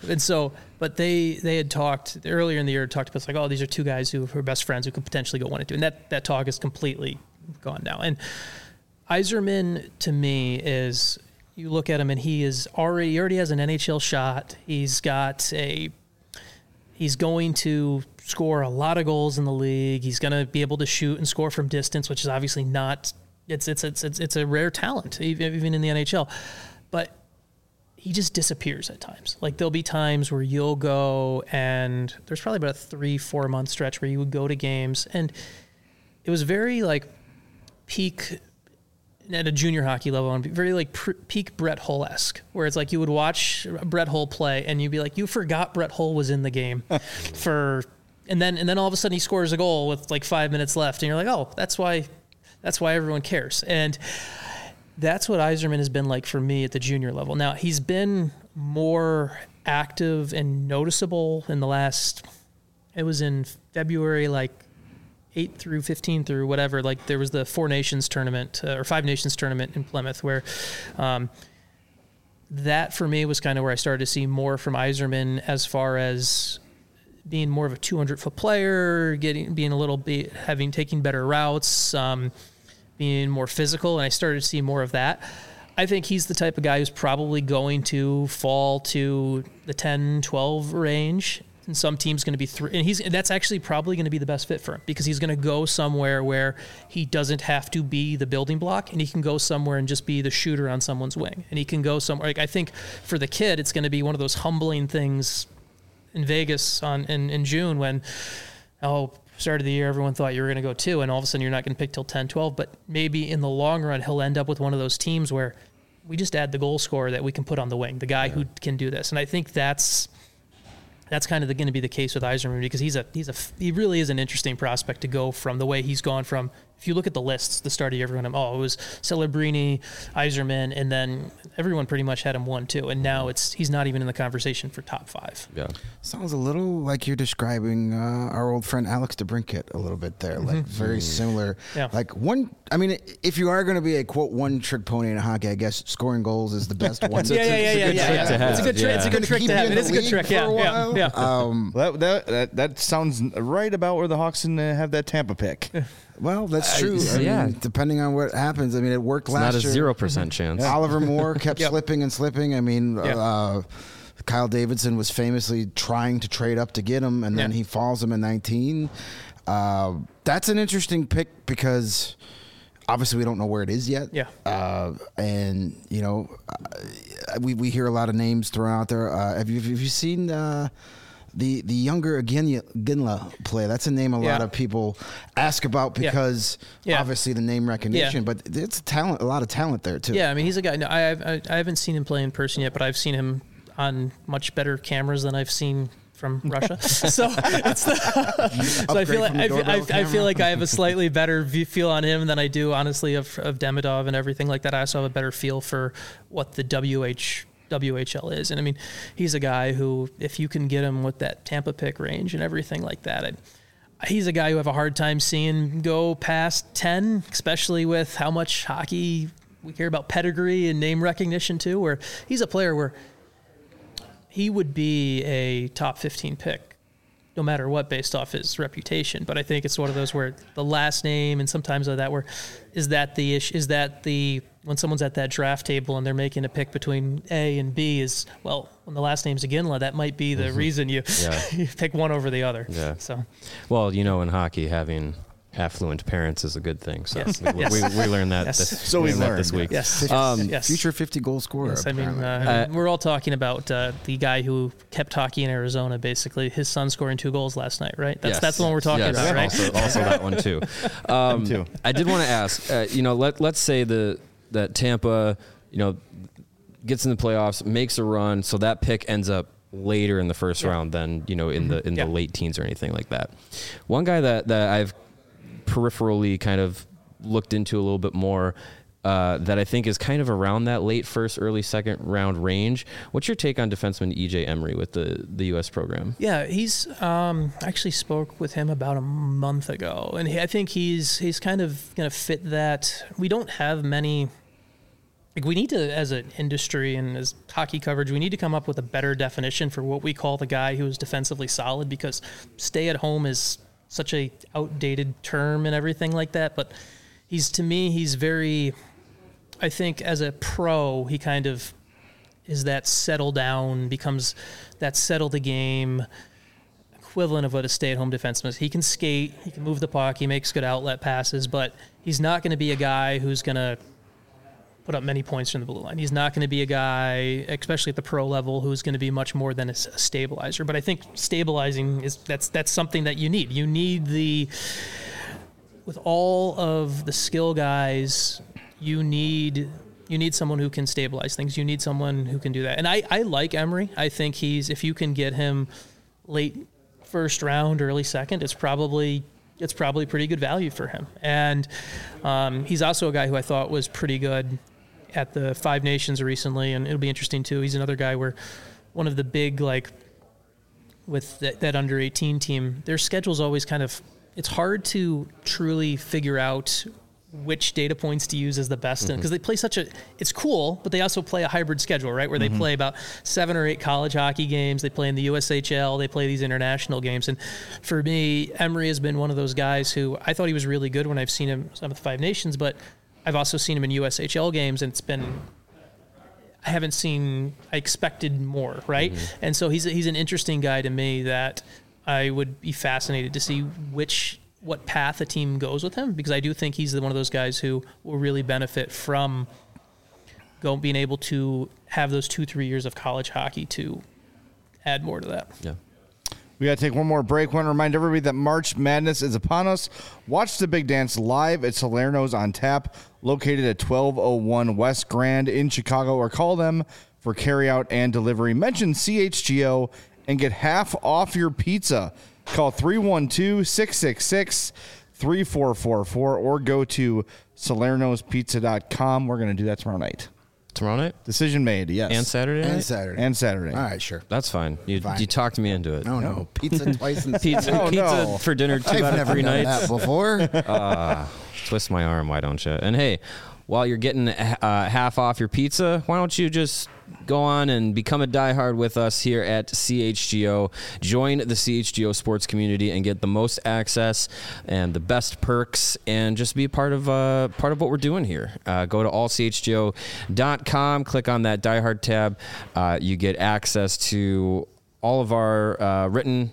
had talked earlier in the year, talked about like, oh, these are 2 guys who are best friends who could potentially go 1 and 2. And that talk is completely gone now. And Eiserman, to me, is, you look at him and he already has an NHL shot. He's got He's going to score a lot of goals in the league. He's going to be able to shoot and score from distance, which is obviously not. It's a rare talent, even in the NHL. But he just disappears at times. Like, there'll be times where you'll go, and there's probably about a 3-4 month stretch where you would go to games, and it was very like peak at a junior hockey level, and very like peak Brett Hull-esque, where it's like you would watch Brett Hull play and you'd be like, you forgot Brett Hull was in the game and then all of a sudden he scores a goal with like 5 minutes left, and you're like, oh, that's why everyone cares. And that's what Yzerman has been like for me at the junior level. Now, he's been more active and noticeable in the last, it was in February, like 8 through 15 through whatever, like there was the Four Nations tournament or Five Nations tournament in Plymouth, where that for me was kind of where I started to see more from Yzerman as far as being more of a 200-foot player, being a little bit, taking better routes, being more physical, and I started to see more of that. I think he's the type of guy who's probably going to fall to the 10-12 range. And some team's going to be 3, and that's actually probably going to be the best fit for him, because he's going to go somewhere where he doesn't have to be the building block, and he can go somewhere and just be the shooter on someone's wing. And he can go somewhere. Like, I think for the kid, it's going to be one of those humbling things in Vegas in June when, start of the year, everyone thought you were going to go 2, and all of a sudden you're not going to pick till 10, 12. But maybe in the long run, he'll end up with one of those teams where we just add the goal scorer that we can put on the wing, the guy who can do this. And I think that's kind of going to be the case with Yzerman, because he really is an interesting prospect to go from the way he's gone from. If you look at the lists, the start of the year, everyone, it was Celebrini, Yzerman, and then everyone pretty much had him 1, 2, and now he's not even in the conversation for top 5. Yeah, sounds a little like you're describing our old friend Alex DeBrincat a little bit there, like very similar. Yeah. Like if you are going to be a quote one-trick pony in hockey, I guess scoring goals is the best one. It's a good trick. It's a good trick to have. It is a good trick. Yeah. That sounds right about where the Hawks have that Tampa pick. Well, that's true. I mean, depending on what happens. I mean, it worked last year. Not a 0% chance. Oliver Moore kept slipping and slipping. I mean, Kyle Davidson was famously trying to trade up to get him, and then he falls him in 19. That's an interesting pick because obviously we don't know where it is yet. Yeah. And, we hear a lot of names thrown out there. Have you seen the younger Ginla play? That's a name a lot of people ask about because obviously the name recognition, but it's a lot of talent there too. Yeah, I mean, he's a guy. No, I haven't seen him play in person yet, but I've seen him on much better cameras than I've seen from Russia. So I feel like I have a slightly better feel on him than I do, honestly, of Demidov and everything like that. I also have a better feel for what the WHL is. And I mean, he's a guy who, if you can get him with that Tampa pick range and everything like that, he's a guy who I have a hard time seeing go past 10, especially with how much hockey we care about pedigree and name recognition too, where he's a player where he would be a top 15 pick no matter what based off his reputation. But I think it's one of those where the last name and sometimes of that where is that the issue, is that the when someone's at that draft table and they're making a pick between A and B is, well, when the last name's Ginla, that might be the reason you pick one over the other. Yeah. So, well, in hockey, having affluent parents is a good thing. So we learned that. So we learned this week. Yes. Future 50 goal scorer. Yes, I mean, we're all talking about the guy who kept hockey in Arizona. Basically, his son scoring 2 goals last night. Right. That's the one we're talking about. Right. Also that one too. I did want to ask. Let's say that Tampa, gets in the playoffs, makes a run, so that pick ends up later in the first round than in the late teens or anything like that. One guy that I've peripherally kind of looked into a little bit more that I think is kind of around that late first, early second round range. What's your take on defenseman EJ Emery with the U.S. program? Yeah, he's actually spoke with him about a month ago, and I think he's kind of going to fit that. We don't have many. Like, we need to, as an industry and as hockey coverage, we need to come up with a better definition for what we call the guy who is defensively solid, because stay at home is such a outdated term and everything like that. But he's very, I think as a pro, he kind of is that settle down, becomes that settle the game, equivalent of what a stay-at-home defenseman is. He can skate, he can move the puck, he makes good outlet passes, but he's not going to be a guy who's going to put up many points from the blue line. He's not going to be a guy, especially at the pro level, who's going to be much more than a stabilizer. But I think stabilizing that's something that you need. You need with all of the skill guys, you need someone who can stabilize things. You need someone who can do that. And I like Emery. I think if you can get him late first round, early second, it's probably pretty good value for him. And he's also a guy who I thought was pretty good at the Five Nations recently, and it'll be interesting too. He's another guy where one of the big, like, with that under 18 team, their schedule's always it's hard to truly figure out which data points to use as the best, because they play it's cool, but they also play a hybrid schedule, right? Where they play about 7 or 8 college hockey games, they play in the USHL, they play these international games. And for me, Emery has been one of those guys who I thought he was really good when I've seen him some of the Five Nations, but I've also seen him in USHL games, and I expected more, right? And so he's an interesting guy to me that I would be fascinated to see what path a team goes with him, because I do think he's one of those guys who will really benefit from being able to have those 2-3 years of college hockey to add more to that. Yeah. We got to take one more break. Want to remind everybody that March Madness is upon us. Watch the big dance live at Salerno's on Tap, located at 1201 West Grand in Chicago, or call them for carryout and delivery. Mention CHGO and get half off your pizza. Call 312-666-3444 or go to salernospizza.com. We're going to do that tomorrow night. Tomorrow night? Decision made, yes. And Saturday night? And Saturday. All right, sure. That's fine. You talked me into it. No. Pizza twice in Pizza for dinner 2 out of 3 nights. I've never done that before. Twist my arm, why don't you? And hey, while you're getting half off your pizza, why don't you just go on and become a diehard with us here at CHGO. Join the CHGO sports community and get the most access and the best perks, and just be part of what we're doing here. Go to allchgo.com, click on that diehard tab. You get access to all of our written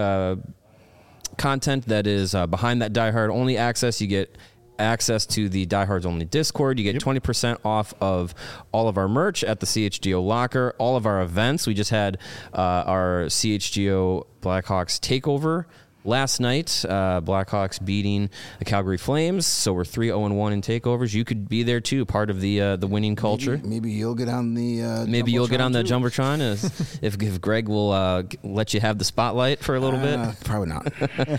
content that is behind that diehard only access. You get access to the Diehards Only Discord. You get 20% off of all of our merch at the CHGO Locker, all of our events. We just had our CHGO Blackhawks takeover last night. Blackhawks beating the Calgary Flames, so we're 3-0-1 in takeovers. You could be there too, part of the winning culture. Maybe you'll get on the Jumbotron if Greg will let you have the spotlight for a little bit. Probably not.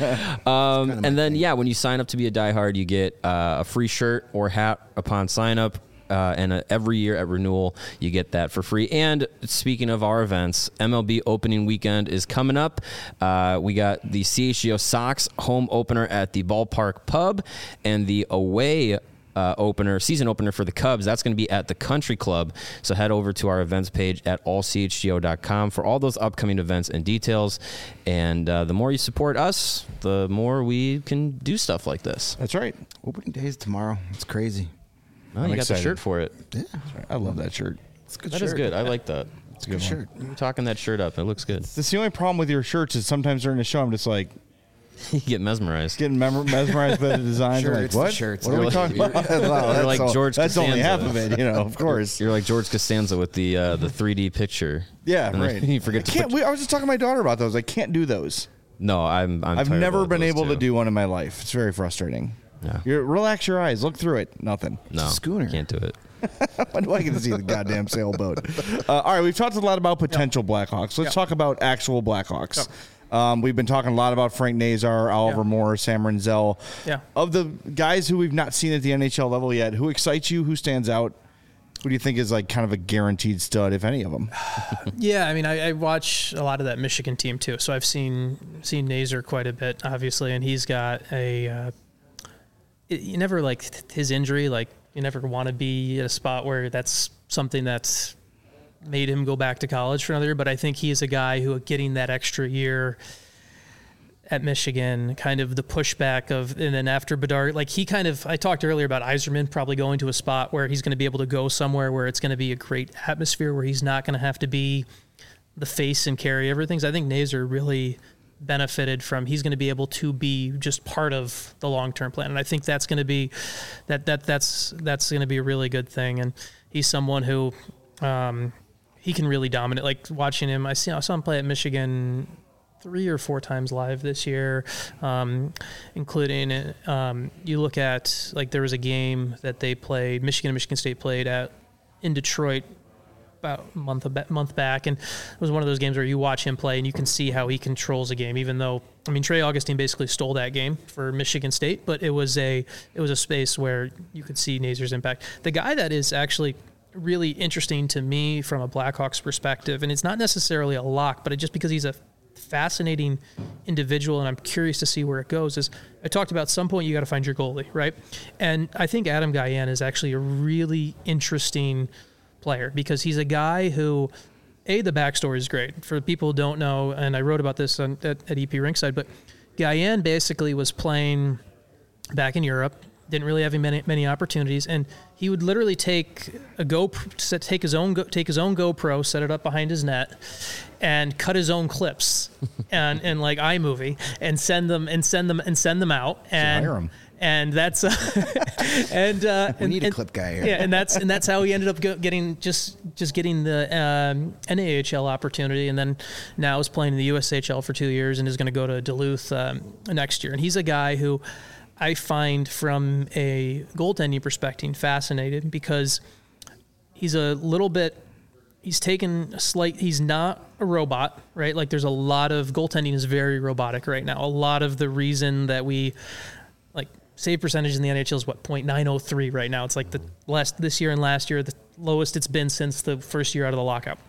And then when you sign up to be a diehard, you get a free shirt or hat upon sign up. And every year at renewal, you get that for free. And speaking of our events, MLB opening weekend is coming up. We got the CHGO Sox home opener at the Ballpark Pub, and the away season opener for the Cubs. That's going to be at the Country Club. So head over to our events page at allchgo.com for all those upcoming events and details. And the more you support us, the more we can do stuff like this. That's right. Opening day is tomorrow. It's crazy. Oh, you got the shirt for it. Yeah. I love that shirt. It's a good That shirt. is good. I like that. It's a good shirt. You're talking that shirt up. It looks good. That's the only problem with your shirts is sometimes during the show I'm just like You get mesmerized. getting mesmerized by the designs. Sure, I'm like, it's the what? shirts. What are we talking about? Wow, You're like George That's only Costanza. half of it, of course. You're like George Costanza with the 3D picture. Yeah, And then right. You forget to put, I was just talking to my daughter about those. I can't do those. No, I've never been able to do one in my life. It's very frustrating. Yeah. Relax your eyes. Look through it. Nothing. No, Schooner. Can't do it. When do I get to see the goddamn sailboat? All right, we've talked a lot about potential Blackhawks. Let's talk about actual Blackhawks. We've been talking a lot about Frank Nazar, Oliver Moore, Sam Renzel. Yeah. Of the guys who we've not seen at the NHL level yet, who excites you? Who stands out? Who do you think is like kind of a guaranteed stud, if any of them? Yeah, I mean, I watch a lot of that Michigan team too, so I've seen Nazar quite a bit, obviously, and he's got you never like his injury, like you never want to be at a spot where that's something that's made him go back to college for another year, but I think he is a guy who getting that extra year at Michigan, kind of the pushback of, and then after Bedard, like I talked earlier about Yzerman probably going to a spot where he's going to be able to go somewhere where it's going to be a great atmosphere, where he's not going to have to be the face and carry everything. So I think Nazar really benefited from. He's going to be able to be just part of the long-term plan, and I think that's going to be that's going to be a really good thing. And he's someone who he can really dominate. Like watching him, I saw him play at Michigan 3 or 4 times live this year, including you look at, like, there was a game that they played, Michigan and Michigan State played in Detroit about a month back, and it was one of those games where you watch him play and you can see how he controls a game, even though, I mean, Trey Augustine basically stole that game for Michigan State, but it was a space where you could see Nazar's impact. The guy that is actually really interesting to me from a Blackhawks perspective, and it's not necessarily a lock, but just because he's a fascinating individual and I'm curious to see where it goes, is I talked about, some point you got to find your goalie, right? And I think Adam Gajan is actually a really interesting player because he's a guy who, the backstory is great. For people who don't know, and I wrote about this at EP Rinkside, but Gajan basically was playing back in Europe, didn't really have many opportunities, and he would literally take his own GoPro, set it up behind his net, and cut his own clips, and like iMovie, and send them out, and hire him. And that's we need a clip guy here. Yeah, and that's how he ended up getting the NAHL opportunity, and then now is playing in the USHL for 2 years and is going to go to Duluth next year. And he's a guy who I find, from a goaltending perspective, fascinating because he's not a robot, right? Like, there's a lot of goaltending is very robotic right now. A lot of the reason that we, like, save percentage in the NHL is what, .903 right now. It's like this year and last year, the lowest it's been since the first year out of the lockout.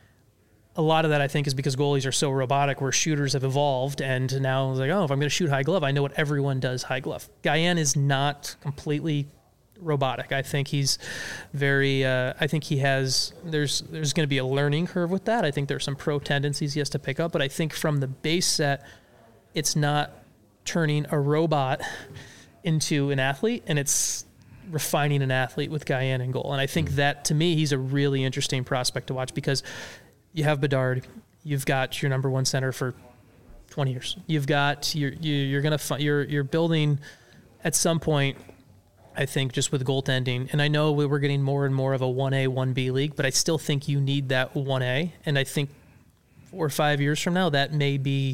A lot of that, I think, is because goalies are so robotic, where shooters have evolved, and now it's like, oh, if I'm going to shoot high glove, I know what everyone does high glove. Gajan is not completely robotic. I think he's very. I think he has. There's going to be a learning curve with that. I think there's some pro tendencies he has to pick up, but I think from the base set, it's not turning a robot into an athlete, and it's refining an athlete with Gajan in goal. And I think that, to me, he's a really interesting prospect to watch because you have Bedard, you've got your number one center for 20 years. You've got you're building at some point, I think, just with goaltending. And I know we're getting more and more of a 1A, 1B league, but I still think you need that 1A. And I think 4 or 5 years from now, that may be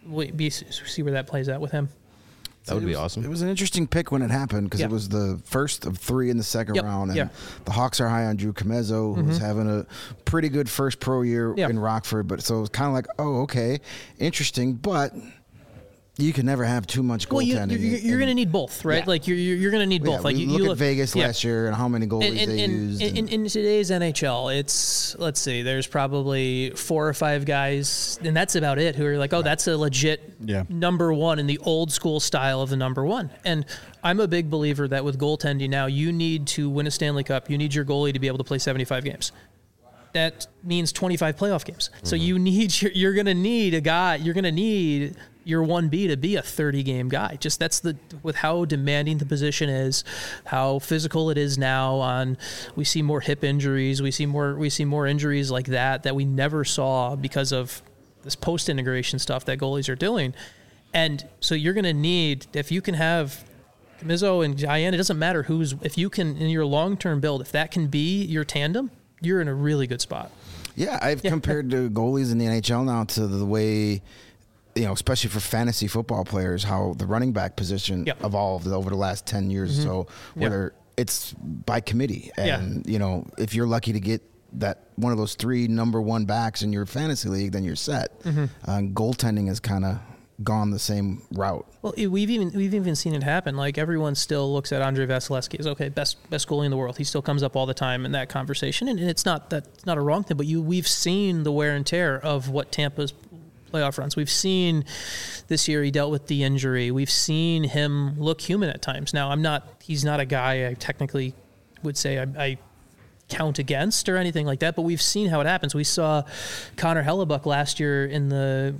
see where that plays out with him. That would be awesome. It was an interesting pick when it happened because it was the first of 3 in the second round. And the Hawks are high on Drew Comezzo, who was having a pretty good first pro year in Rockford. But so it was kind of like, oh, okay, interesting. But you can never have too much goaltending. You're going to need both, right? Yeah. Like you're going to need both. Like you look at Vegas last year and how many goalies they used. In today's NHL, it's, let's see, there's probably 4 or 5 guys, and that's about it, who are like, oh, that's a legit number one in the old school style of the number one. And I'm a big believer that with goaltending now, you need to win a Stanley Cup. You need your goalie to be able to play 75 games. That means 25 playoff games. So you're going to need a guy. You're going to need your 1B to be a 30-game guy. Just with how demanding the position is, how physical it is now. We see more hip injuries. We see more injuries like that we never saw because of this post-integration stuff that goalies are doing. And so you're going to need, if you can have Comizzo and Gajan, it doesn't matter if you can, in your long-term build, if that can be your tandem, you're in a really good spot. Yeah, I've compared to goalies in the NHL now to the way, especially for fantasy football players, how the running back position evolved over the last 10 years or so, whether it's by committee. And, if you're lucky to get that one of those 3 number 1 backs in your fantasy league, then you're set. Goaltending has kind of gone the same route. Well, we've even seen it happen. Like, everyone still looks at Andrei Vasilevsky as, okay, best goalie in the world. He still comes up all the time in that conversation, and it's not a wrong thing. But we've seen the wear and tear of what Tampa's playoff runs. We've seen this year he dealt with the injury. We've seen him look human at times. Now, he's not a guy I technically would say I count against or anything like that, but we've seen how it happens. We saw Connor Hellebuck last year in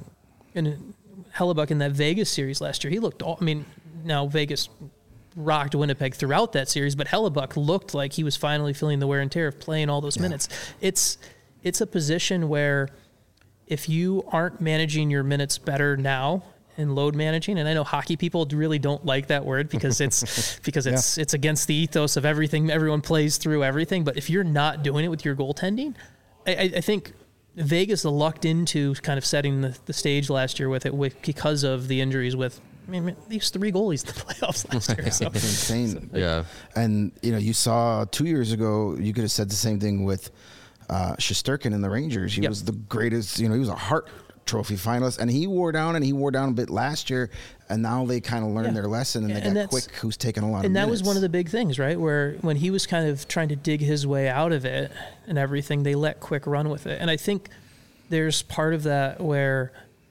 that Vegas series last year. He looked now Vegas rocked Winnipeg throughout that series, but Hellebuck looked like he was finally feeling the wear and tear of playing all those minutes. It's a position where if you aren't managing your minutes better now and load managing, and I know hockey people really don't like that word because it's against the ethos of everything. Everyone plays through everything, but if you're not doing it with your goaltending, I think Vegas lucked into kind of setting the stage last year with it because of the injuries with. I mean, these 3 goalies in the playoffs last year. So. It's insane. Yeah. And, you saw 2 years ago, you could have said the same thing with Shesterkin in the Rangers. He was the greatest, he was a Hart Trophy finalist, and he wore down a bit last year, and now they kind of learned their lesson, and they got Quick, who's taken a lot of minutes. And that was one of the big things, right, where when he was kind of trying to dig his way out of it and everything, they let Quick run with it. And I think there's part of that where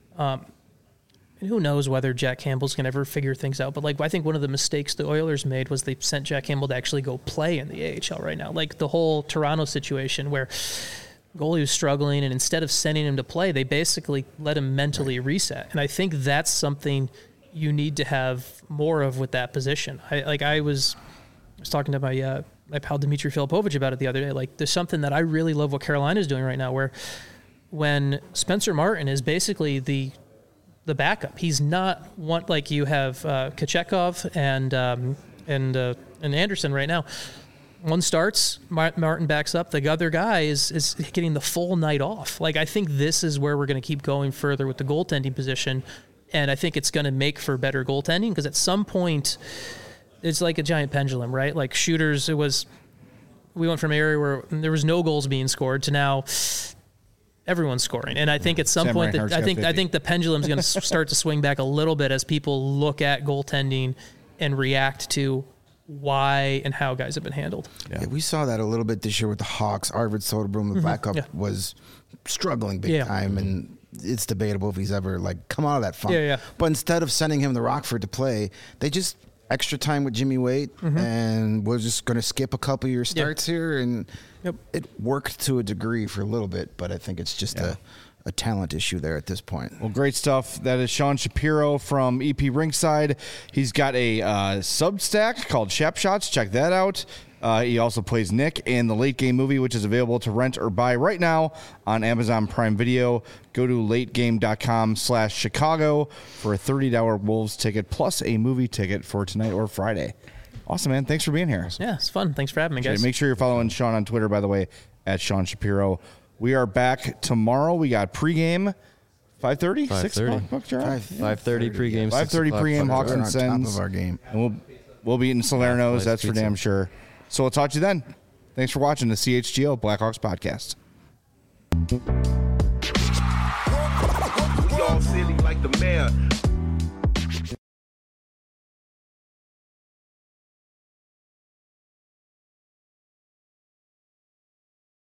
and who knows whether Jack Campbell's going to ever figure things out. But, I think one of the mistakes the Oilers made was they sent Jack Campbell to actually go play in the AHL right now. Like the whole Toronto situation where goalie was struggling, and instead of sending him to play, they basically let him mentally reset. And I think that's something you need to have more of with that position. I was talking to my pal Dmitry Filipovich about it the other day. There's something that I really love what Carolina's doing right now where when Spencer Martin is basically the backup. He's not one like you have Kochetkov and Anderson right now. One starts, Martin backs up. The other guy is getting the full night off. I think this is where we're going to keep going further with the goaltending position, and I think it's going to make for better goaltending because at some point it's like a giant pendulum, right? Shooters, we went from an area where there was no goals being scored to now everyone's scoring, and I think at some point I think the pendulum's going to start to swing back a little bit as people look at goaltending and react to why and how guys have been handled. Yeah, we saw that a little bit this year with the Hawks. Arvid Soderblom, the backup, was struggling big time, and it's debatable if he's ever come out of that funk. But instead of sending him to Rockford to play, they just extra time with Jimmy Waite, and we're just going to skip a couple of your starts here, and it worked to a degree for a little bit, but I think it's just a talent issue there at this point. Well, great stuff. That is Sean Shapiro from EP Rinkside. He's got a Substack called Shap Shots. Check that out. He also plays Nick in the Late Game movie, which is available to rent or buy right now on Amazon Prime Video. Go to lategame.com/Chicago for a $30 Wolves ticket plus a movie ticket for tonight or Friday. Awesome, man. Thanks for being here. Yeah, it's fun. Thanks for having me, guys. Make sure you're following Sean on Twitter, by the way, at Sean Shapiro. We are back tomorrow. We got pregame 5:30? 5:30. 5:30 pregame. 5:30 pregame, Hawks and Sens. Top of our game. And we'll be in Salerno's, that's for damn sure. So we'll talk to you then. Thanks for watching the CHGO Blackhawks podcast. We all silly.